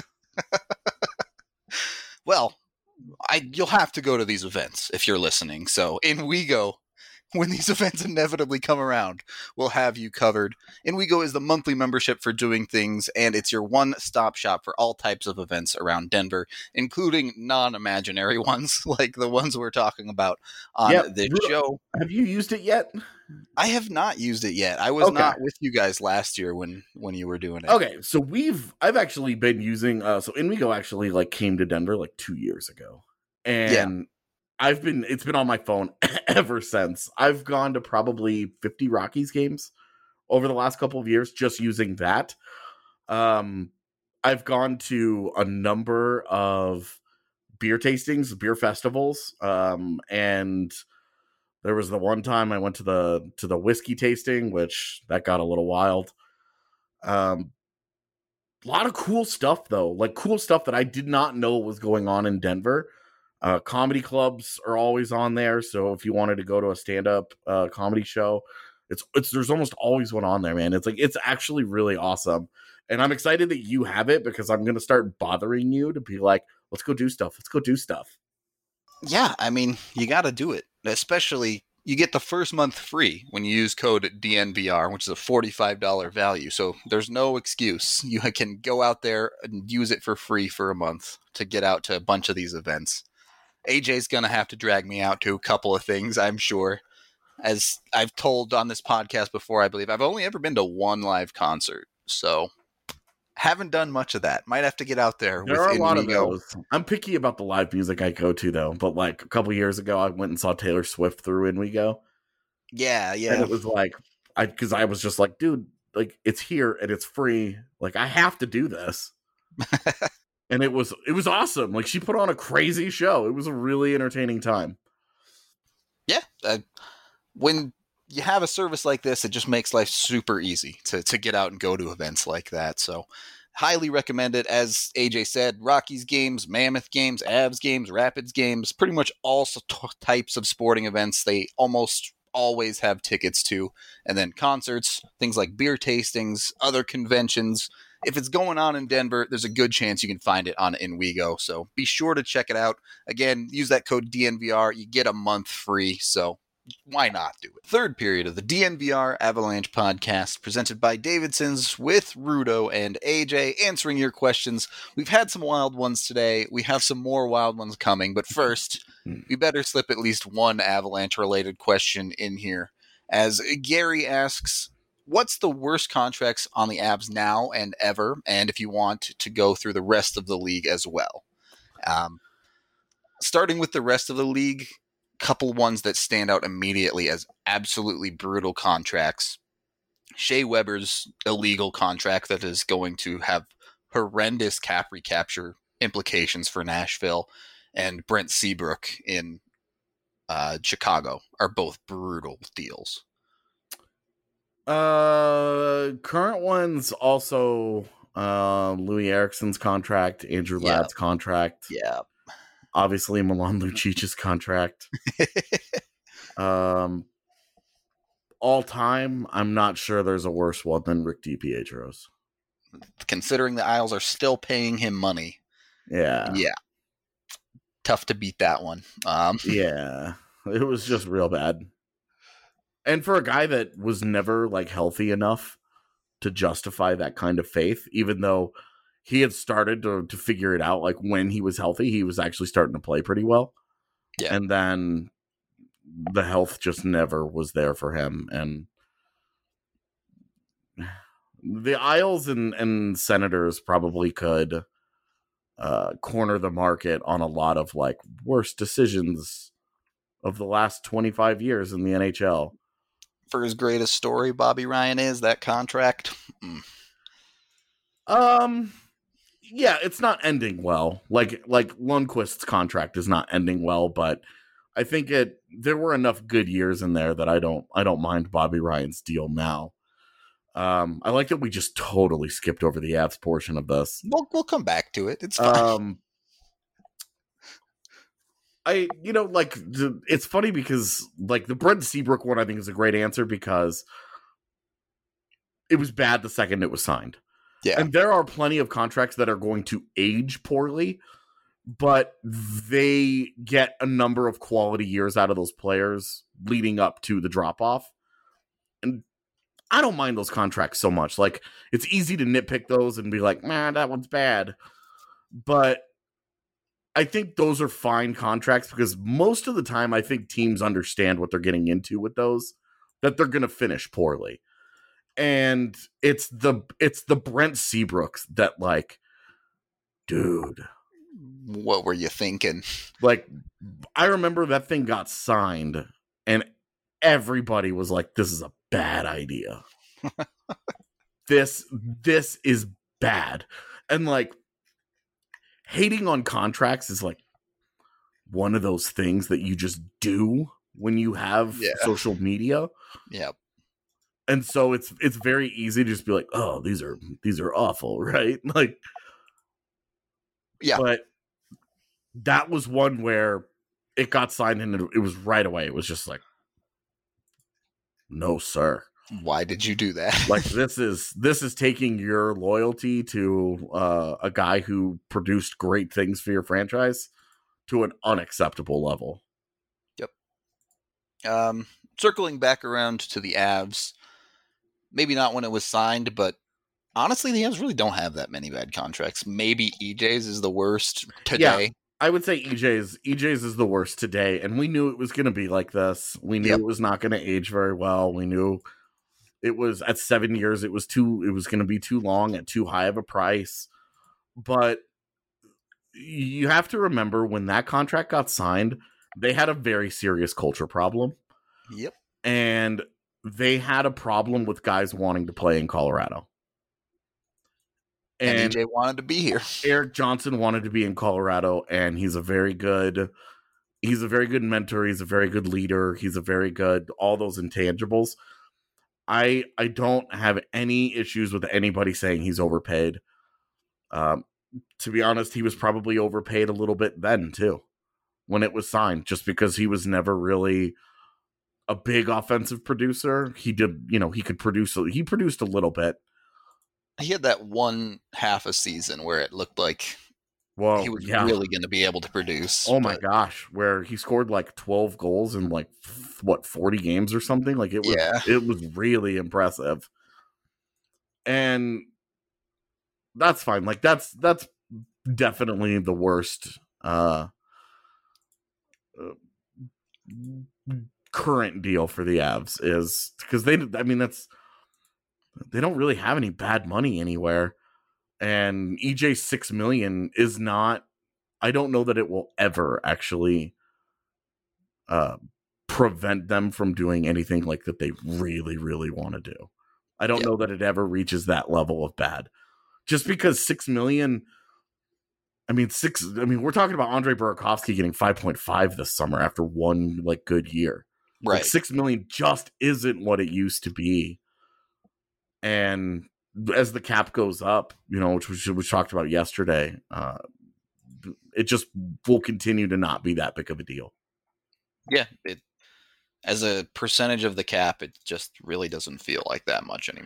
Well, I you'll have to go to these events if you're listening. So in WeGo, when these events inevitably come around, we'll have you covered. InWeGo is the monthly membership for doing things, and it's your one-stop shop for all types of events around Denver, including non-imaginary ones, like the ones we're talking about on yep. this show. Have you used it yet? I have not used it yet. I was okay. not with you guys last year when, when you were doing it. Okay, so we've I've actually been using uh, so InWeGo actually like came to Denver like two years ago, and. Yeah. I've been, it's been on my phone ever since. I've gone to probably fifty Rockies games over the last couple of years just using that. Um, I've gone to a number of beer tastings, beer festivals. Um, and there was the one time I went to the, to the whiskey tasting, which that got a little wild. Um, a lot of cool stuff though, like cool stuff that I did not know was going on in Denver. Uh, comedy clubs are always on there, so if you wanted to go to a stand-up uh, comedy show, it's it's there's almost always one on there, man. It's like it's actually really awesome, and I'm excited that you have it because I'm gonna start bothering you to be like, let's go do stuff, let's go do stuff. Yeah, I mean, you got to do it, especially you get the first month free when you use code D N V R, which is a forty-five dollars value. So there's no excuse. You can go out there and use it for free for a month to get out to a bunch of these events. A J's going to have to drag me out to a couple of things, I'm sure. As I've told on this podcast before, I believe I've only ever been to one live concert. So haven't done much of that. Might have to get out there. There are a lot of those. I'm picky about the live music I go to, though. But like a couple years ago, I went and saw Taylor Swift through InWeGo. Yeah, yeah. And it was like, I because I was just like, dude, like it's here and it's free. Like I have to do this. And it was it was awesome. Like she put on a crazy show. It was a really entertaining time. Yeah, uh, when you have a service like this, it just makes life super easy to to get out and go to events like that. So, highly recommend it. As A J said, Rockies games, Mammoth games, Avs games, Rapids games, pretty much all types of sporting events. They almost always have tickets to, and then concerts, things like beer tastings, other conventions. If it's going on in Denver, there's a good chance you can find it on InWeGo. So be sure to check it out. Again, use that code D N V R. You get a month free. So why not do it? Third period of the D N V R Avalanche podcast presented by Davidson's with Rudo and A J answering your questions. We've had some wild ones today. We have some more wild ones coming. But first, we better slip at least one Avalanche related question in here. As Gary asks, what's the worst contracts on the Avs now and ever? And if you want to go through the rest of the league as well. Um, starting with the rest of the league, couple ones that stand out immediately as absolutely brutal contracts. Shea Weber's illegal contract that is going to have horrendous cap recapture implications for Nashville, and Brent Seabrook in uh, Chicago are both brutal deals. Uh, current ones also uh, Louis Ericsson's contract, Andrew Yeah. Ladd's contract. Yeah. Obviously, Milan Lucic's contract. um, all time, I'm not sure there's a worse one than Rick DiPietro's. considering the Isles are still paying him money. Yeah. Yeah. Tough to beat that one. Um, yeah. It was just real bad. And for a guy that was never like healthy enough to justify that kind of faith, even though he had started to, to figure it out, like when he was healthy, he was actually starting to play pretty well. Yeah. And then the health just never was there for him. And the Isles and, and Senators probably could uh, corner the market on a lot of like worst decisions of the last twenty-five years in the N H L. For his greatest story, Bobby Ryan is that contract. Mm. Um, yeah, it's not ending well. Like like Lundqvist's contract is not ending well, but I think it there were enough good years in there that I don't I don't mind Bobby Ryan's deal now. Um, I like that we just totally skipped over the Avs portion of this. We'll we'll come back to it. It's fine. Um, I you know like the, it's funny because like the Brent Seabrook one I think is a great answer because it was bad the second it was signed. Yeah, and there are plenty of contracts that are going to age poorly, but they get a number of quality years out of those players leading up to the drop off. And I don't mind those contracts so much. Like, it's easy to nitpick those and be like, man, that one's bad. But I think those are fine contracts because most of the time I think teams understand what they're getting into with those, that they're going to finish poorly. And it's the it's the Brent Seabrooks that, like, dude. What were you thinking? Like, I remember that thing got signed and everybody was like, this is a bad idea. this this is bad. And like hating on contracts is like one of those things that you just do when you have yeah. social media. Yeah. And so it's it's very easy to just be like, oh, these are these are awful, right? Like, yeah. But that was one where it got signed and it, it was right away. It was just like, no, sir. Why did you do that? Like this is this is taking your loyalty to uh, a guy who produced great things for your franchise to an unacceptable level. Yep. Um, circling back around to the Avs, maybe not when it was signed, but honestly, the Avs really don't have that many bad contracts. Maybe E J's is the worst today. Yeah, I would say E J's E J's is the worst today, and we knew it was going to be like this. We knew Yep. it was not going to age very well. We knew it was at seven years. It was too. It was going to be too long at too high of a price. But you have to remember when that contract got signed, they had a very serious culture problem. Yep. And they had a problem with guys wanting to play in Colorado. And, And E J wanted to be here. Eric Johnson wanted to be in Colorado, and he's a very good, he's a very good mentor. He's a very good leader. He's a very good, all those intangibles. I I don't have any issues with anybody saying he's overpaid. Um, to be honest, he was probably overpaid a little bit then too, when it was signed, just because he was never really a big offensive producer. He did, you know, he could produce, he produced a little bit. He had that one half a season where it looked like Well, he was yeah. really going to be able to produce. Oh my but, gosh, where he scored like twelve goals in like f- what forty games or something. Like it was, Yeah. it was really impressive. And that's fine. Like that's that's definitely the worst uh, uh current deal for the Avs is because they I mean that's they don't really have any bad money anywhere. And E J six million is not, I don't know that it will ever actually uh, prevent them from doing anything like that they really, really want to do. I don't Yep. know that it ever reaches that level of bad. Just because six million, I mean, six, I mean, we're talking about Andre Burakovsky getting five point five this summer after one like good year. right. Like six million just isn't what it used to be. And as the cap goes up, you know, which we, we talked about yesterday, uh, it just will continue to not be that big of a deal. Yeah. It, as a percentage of the cap, it just really doesn't feel like that much anymore.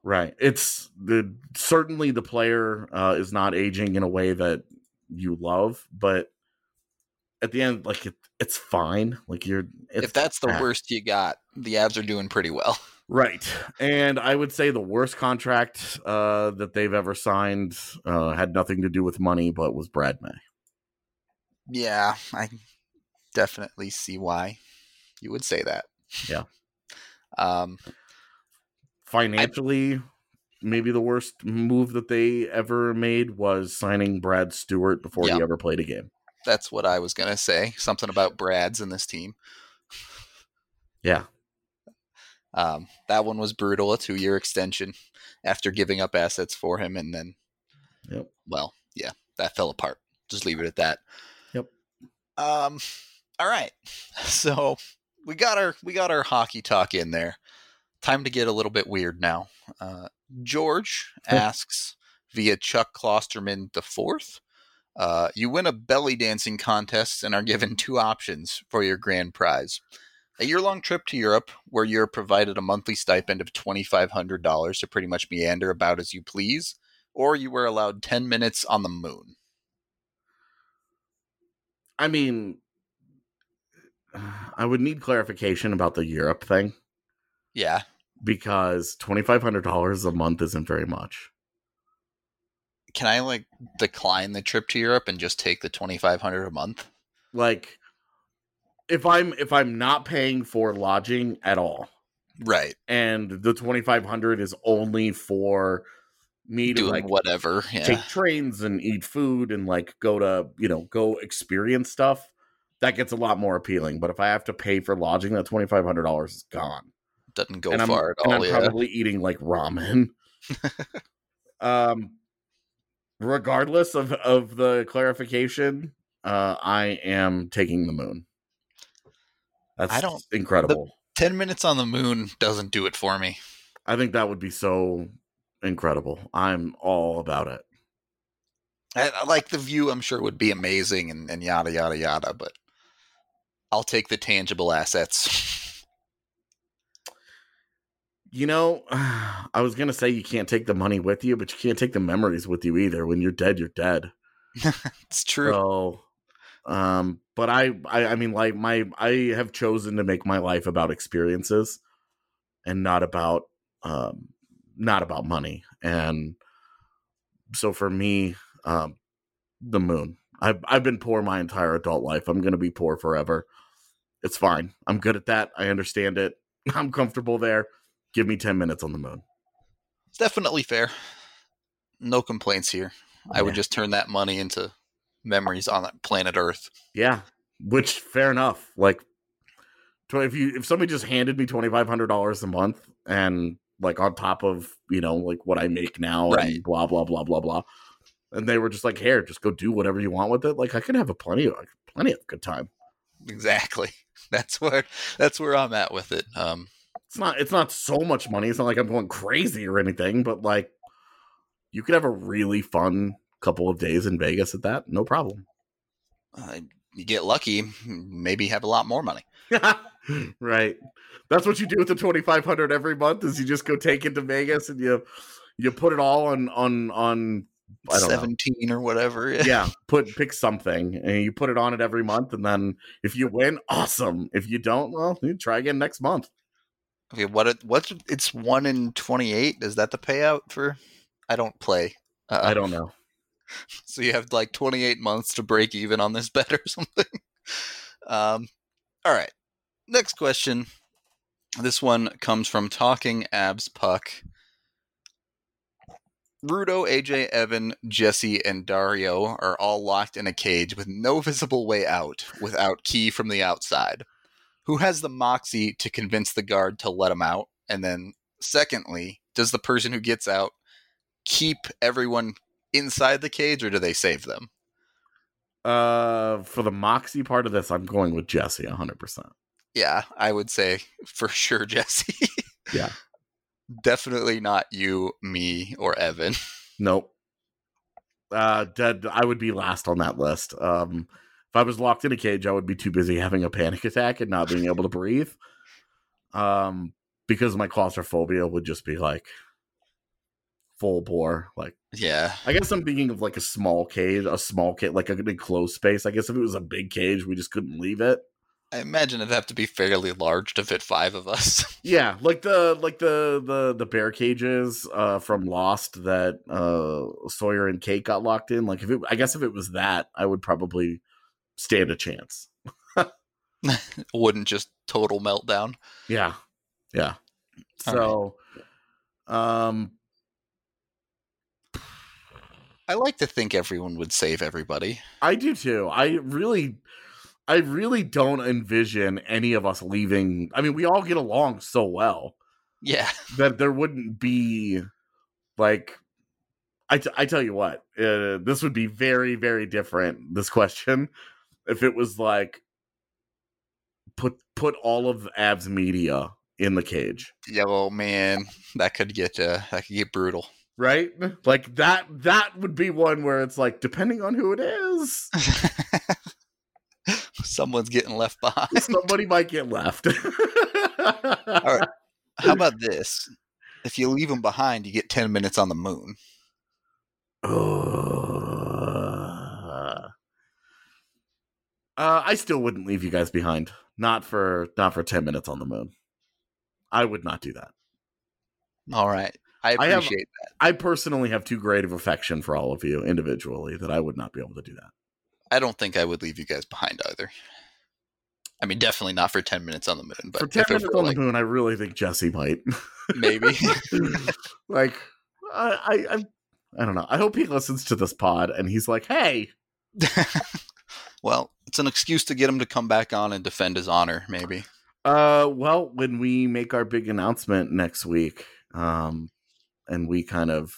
Right. It's the certainly the player uh, is not aging in a way that you love, but at the end, like it, it's fine. Like you're, it's, If that's the ah. worst you got, the Avs are doing pretty well. Right. And I would say the worst contract uh, that they've ever signed uh, had nothing to do with money, but was Brad May. Yeah, I definitely see why you would say that. Yeah. Um, Financially, I, maybe the worst move that they ever made was signing Brad Stewart before yeah. he ever played a game. That's what I was going to say. Something about Brad's in this team. Yeah. Um, that one was brutal, a two-year extension after giving up assets for him. And then, yep. well, yeah, that fell apart. Just leave it at that. Yep. Um, all right. So we got our, we got our hockey talk in there. Time to get a little bit weird now. Uh, George asks via Chuck Klosterman the fourth. Uh, you win a belly dancing contest and are given two options for your grand prize. A year-long trip to Europe where you're provided a monthly stipend of twenty-five hundred dollars to pretty much meander about as you please, or you were allowed ten minutes on the moon. I mean, I would need clarification about the Europe thing. Yeah. Because twenty-five hundred dollars a month isn't very much. Can I, like, decline the trip to Europe and just take the twenty-five hundred dollars a month? Like, if I'm if I'm not paying for lodging at all. Right. And the twenty-five hundred dollars is only for me to, doing like, whatever. Yeah. Take trains and eat food and, like, go to, you know, go experience stuff, that gets a lot more appealing. But if I have to pay for lodging, that twenty-five hundred dollars is gone. Doesn't go and far I'm, at all. And I'm yeah. probably eating like ramen. um, regardless of, of the clarification, uh, I am taking the moon. That's I don't, incredible. ten minutes on the moon doesn't do it for me. I think that would be so incredible. I'm all about it. I, I like the view. I'm sure would be amazing and, and yada, yada, yada, but I'll take the tangible assets. You know, I was going to say you can't take the money with you, but you can't take the memories with you either. When you're dead, you're dead. It's true. So, um, but I, I, I mean, like my, I have chosen to make my life about experiences and not about, um, not about money. And so for me, um, the moon, I've, I've been poor my entire adult life. I'm going to be poor forever. It's fine. I'm good at that. I understand it. I'm comfortable there. Give me ten minutes on the moon. It's definitely fair. No complaints here. I yeah. would just turn that money into memories on that planet Earth. Yeah, which fair enough. Like, if you if somebody just handed me twenty-five hundred dollars a month and like on top of, you know, like what I make now right. and blah blah blah blah blah, and they were just like, here, just go do whatever you want with it. Like, I could have a plenty of plenty of good time. Exactly. That's where that's where I'm at with it. Um. It's not it's not so much money. It's not like I'm going crazy or anything, but like you could have a really fun couple of days in Vegas at that. No problem. Uh, you get lucky, maybe have a lot more money. Right. That's what you do with the twenty-five hundred every month is you just go take it to Vegas and you you put it all on on on I don't seventeen know. Or whatever. Yeah. yeah, put pick something and you put it on it every month, and then if you win, awesome. If you don't, well, you try again next month. Okay, what what's it's one in twenty-eight? Is that the payout for? I don't play. Uh, I don't know. So you have like twenty-eight months to break even on this bet or something. Um, all right. Next question. This one comes from Talking Abs Puck. Rudo, A J, Evan, Jesse, and Dario are all locked in a cage with no visible way out without key from the outside. Who has the moxie to convince the guard to let him out? And then secondly, does the person who gets out keep everyone inside the cage or do they save them? Uh, for the moxie part of this, I'm going with Jesse one hundred percent. Yeah, I would say for sure Jesse. Yeah. Definitely not you, me, or Evan. Nope. Uh, dead. I would be last on that list. Um, If I was locked in a cage, I would be too busy having a panic attack and not being able to breathe. Um, because my claustrophobia would just be like full bore. Like, Yeah. I guess I'm thinking of like a small cage, a small cage, like a enclosed space. I guess if it was a big cage, we just couldn't leave it. I imagine it'd have to be fairly large to fit five of us. Yeah, like the like the the the bear cages uh, from Lost that uh, Sawyer and Kate got locked in. Like, if it, I guess if it was that, I would probably stand a chance. Wouldn't just total meltdown. Yeah, yeah. So, um, I like to think everyone would save everybody. I do too. I really, I really don't envision any of us leaving. I mean, we all get along so well. Yeah. That there wouldn't be, like, I, t- I tell you what, uh, this would be very, very different, this question, if it was like, put put all of Av's media in the cage. Yeah, well, man, that could get uh, that could get brutal. Right? Like, that that would be one where it's like, depending on who it is, someone's getting left behind. somebody might get left. All right. How about this? If you leave them behind, you get ten minutes on the moon. Uh, uh, I still wouldn't leave you guys behind. Not for not for ten minutes on the moon. I would not do that. All right. I I have- appreciate that. I personally have too great of affection for all of you individually that I would not be able to do that. I don't think I would leave you guys behind either. I mean, definitely not for ten minutes on the moon. But For ten if it minutes were on like, the moon, I really think Jesse might. maybe. Like, I, I, I, I don't know. I hope he listens to this pod and he's like, "Hey, Well, it's an excuse to get him to come back on and defend his honor, maybe. uh, well, when we make our big announcement next week, um, and we kind of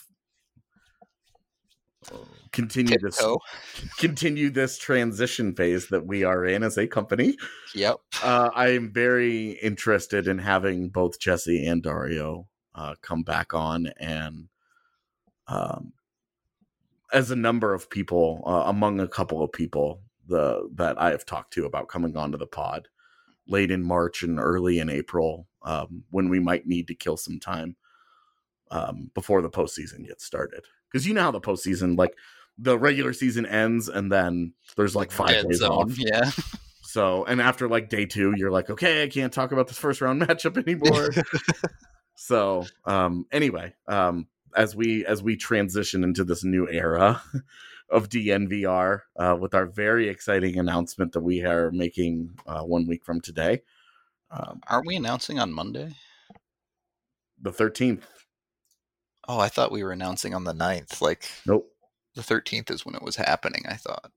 continue this, Tiptoe. continue this transition phase that we are in as a company, Yep. uh, I am very interested in having both Jesse and Dario uh, come back on, and um, as a number of people, uh, among a couple of people the that I have talked to about coming onto the pod late in March and early in April, um, when we might need to kill some time um, before the postseason gets started. Because you know how the postseason, like, the regular season ends and then there's like five Dead days zone. off. Yeah. So, and after like day two, you're like, okay, I can't talk about this first round matchup anymore. So, um, anyway, um, as we as we transition into this new era of D N V R, uh, with our very exciting announcement that we are making uh, one week from today, um, Aren't we announcing on Monday? the thirteenth. Oh, I thought we were announcing on the ninth. Like, Nope. the thirteenth is when it was happening, I thought.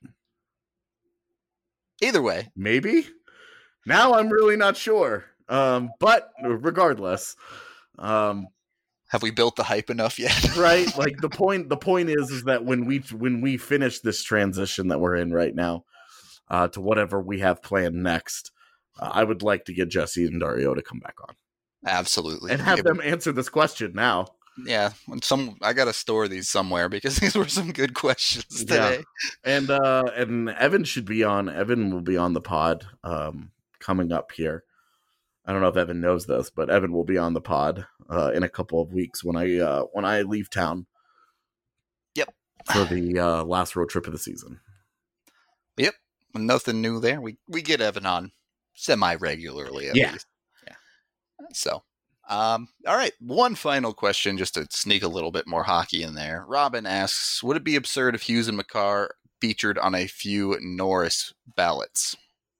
Either way. Maybe. Now I'm really not sure. Um, but regardless, um, Have we built the hype enough yet? right? Like the point, the point is, is that when we when we finish this transition that we're in right now, uh, to whatever we have planned next, uh, I would like to get Jesse and Dario to come back on Absolutely. and have Yeah, them answer this question now. Yeah, when some I gotta store these somewhere because these were some good questions Yeah. today. And uh, and Evan should be on. Evan will be on the pod um, coming up here. I don't know if Evan knows this, but Evan will be on the pod uh, in a couple of weeks when I uh, when I leave town. Yep. For the uh, last road trip of the season. Yep, nothing new there. We we get Evan on semi regularly at Yeah. least. Yeah. So, um, all right. One final question, just to sneak a little bit more hockey in there. Robin asks, "Would it be absurd if Hughes and Makar featured on a few Norris ballots?"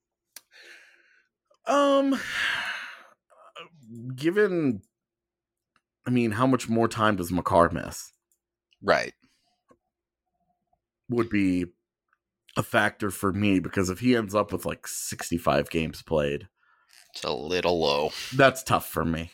Um, given, I mean, how much more time does Makar miss? Right. Would be a factor for me, because if he ends up with like sixty-five games played, It's a little low. that's tough for me.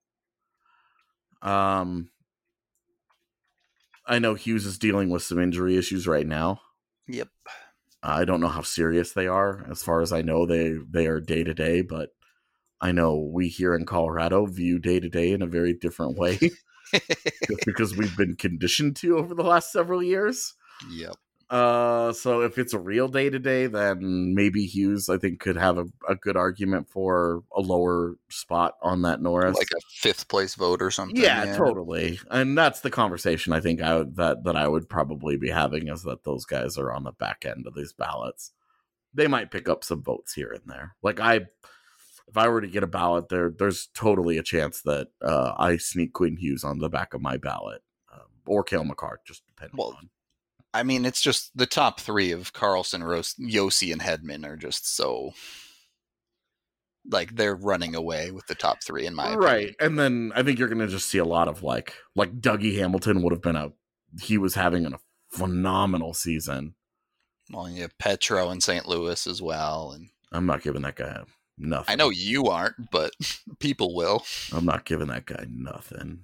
Um, I know Hughes is dealing with some injury issues right now. Yep. I don't know how serious they are. As far as I know, they they are day to day, but I know we here in Colorado view day to day in a very different way, just because we've been conditioned to over the last several years. Yep. Uh, so if it's a real day to day, then maybe Hughes, I think, could have a, a good argument for a lower spot on that Norris, like a fifth place vote or something. Yeah, yeah. totally. And that's the conversation I think I would, that that I would probably be having, is that those guys are on the back end of these ballots. They might pick up some votes here and there. Like I, if I were to get a ballot, there, there's totally a chance that uh, I sneak Quinn Hughes on the back of my ballot, um, or Cale Makar, just depending Well, on. I mean, it's just the top three of Carlson, Rose, Yossi, and Hedman are just so, like, they're running away with the top three in my Right. opinion. And then I think you're going to just see a lot of like, like Dougie Hamilton would have been a, he was having a phenomenal season. Well, you have Petro in Saint Louis as well. And I'm not giving that guy nothing. I know you aren't, but people will. I'm not giving that guy nothing.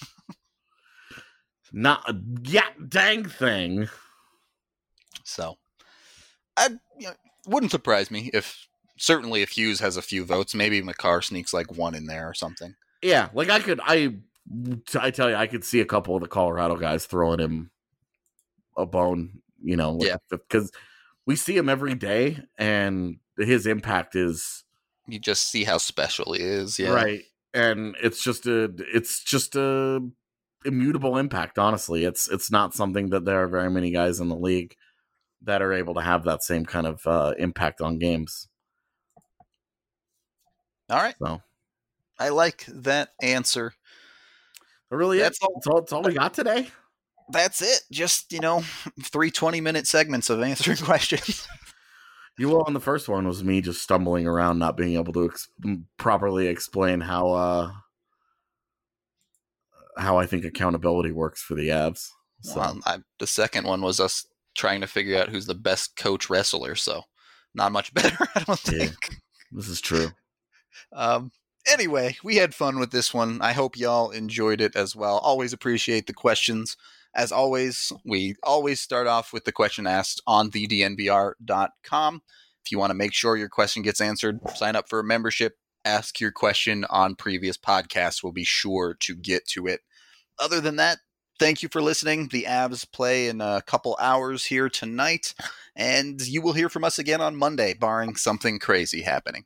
Not a yeah, dang thing. So, I you know, wouldn't surprise me if, certainly if Hughes has a few votes, maybe Makar sneaks like one in there or something. Yeah, like I could, I, I tell you, I could see a couple of the Colorado guys throwing him a bone, you know, Yeah. because we see him every day, and his impact is You just see how special he is. Yeah. right, and it's just a, it's just a immutable impact. Honestly, it's it's not something that there are very many guys in the league that are able to have that same kind of uh, impact on games. All right. So I like that answer. really, That's that's all. That's all, that's all we got today. That's it. Just, you know, three twenty-minute segments of answering questions. You will on the first one was me just stumbling around, not being able to ex- properly explain how uh, how I think accountability works for the Avs. So Well, I, the second one was us trying to figure out who's the best coach wrestler, so not much better, I don't Yeah. think. this is true. Um, anyway, we had fun with this one. I hope y'all enjoyed it as well. Always appreciate the questions. As always, we always start off with the question asked on the D N V R dot com. If you want to make sure your question gets answered, sign up for a membership. Ask your question on previous podcasts. We'll be sure to get to it. Other than that, thank you for listening. The Avs play in a couple hours here tonight, and you will hear from us again on Monday, barring something crazy happening.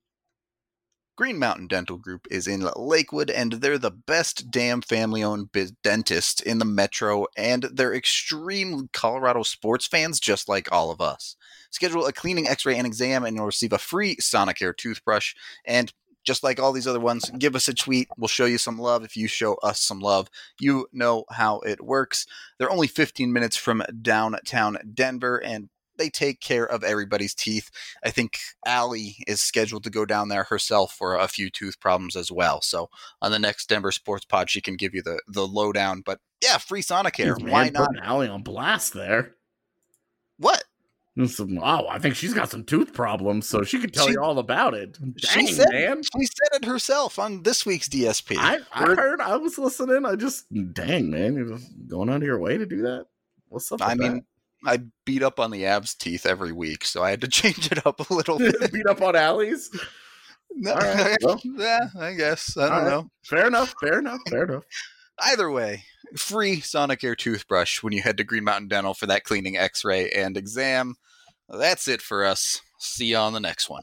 Green Mountain Dental Group is in Lakewood, and they're the best damn family-owned biz- dentist in the metro, and they're extreme Colorado sports fans just like all of us. Schedule a cleaning, x-ray, and exam, and you'll receive a free Sonicare toothbrush. And just like all these other ones, give us a tweet. We'll show you some love if you show us some love. You know how it works. They're only fifteen minutes from downtown Denver, and they take care of everybody's teeth. I think Allie is scheduled to go down there herself for a few tooth problems as well. So on the next Denver Sports Pod, she can give you the, the lowdown. But yeah, free Sonicare. Jeez, Why man, not? putting Allie on blast there. What? Some, oh, I think she's got some tooth problems, so she could tell She- you all about it. Dang, she said, man. She said it herself on this week's D S P. I, I We're- heard, I was listening. I just, dang, man, you're just going out of your way to do that? What's up with I mean, I beat up on the Avs teeth every week, so I had to change it up a little bit. that? Beat up on Allie's? No, All right, well. yeah, I guess. I don't All right. know. Fair enough, fair enough, fair enough. Either way, free Sonicare toothbrush when you head to Green Mountain Dental for that cleaning, x-ray, and exam. That's it for us. See you on the next one.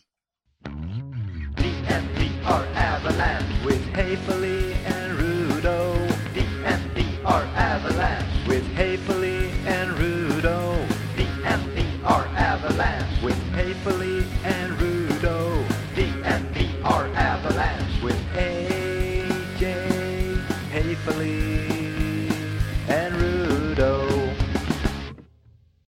D N V R Avalanche with Haefele and Rudo. D N V R Avalanche with Haefele and Rudo. D N V R Avalanche with Haefele and Rudo.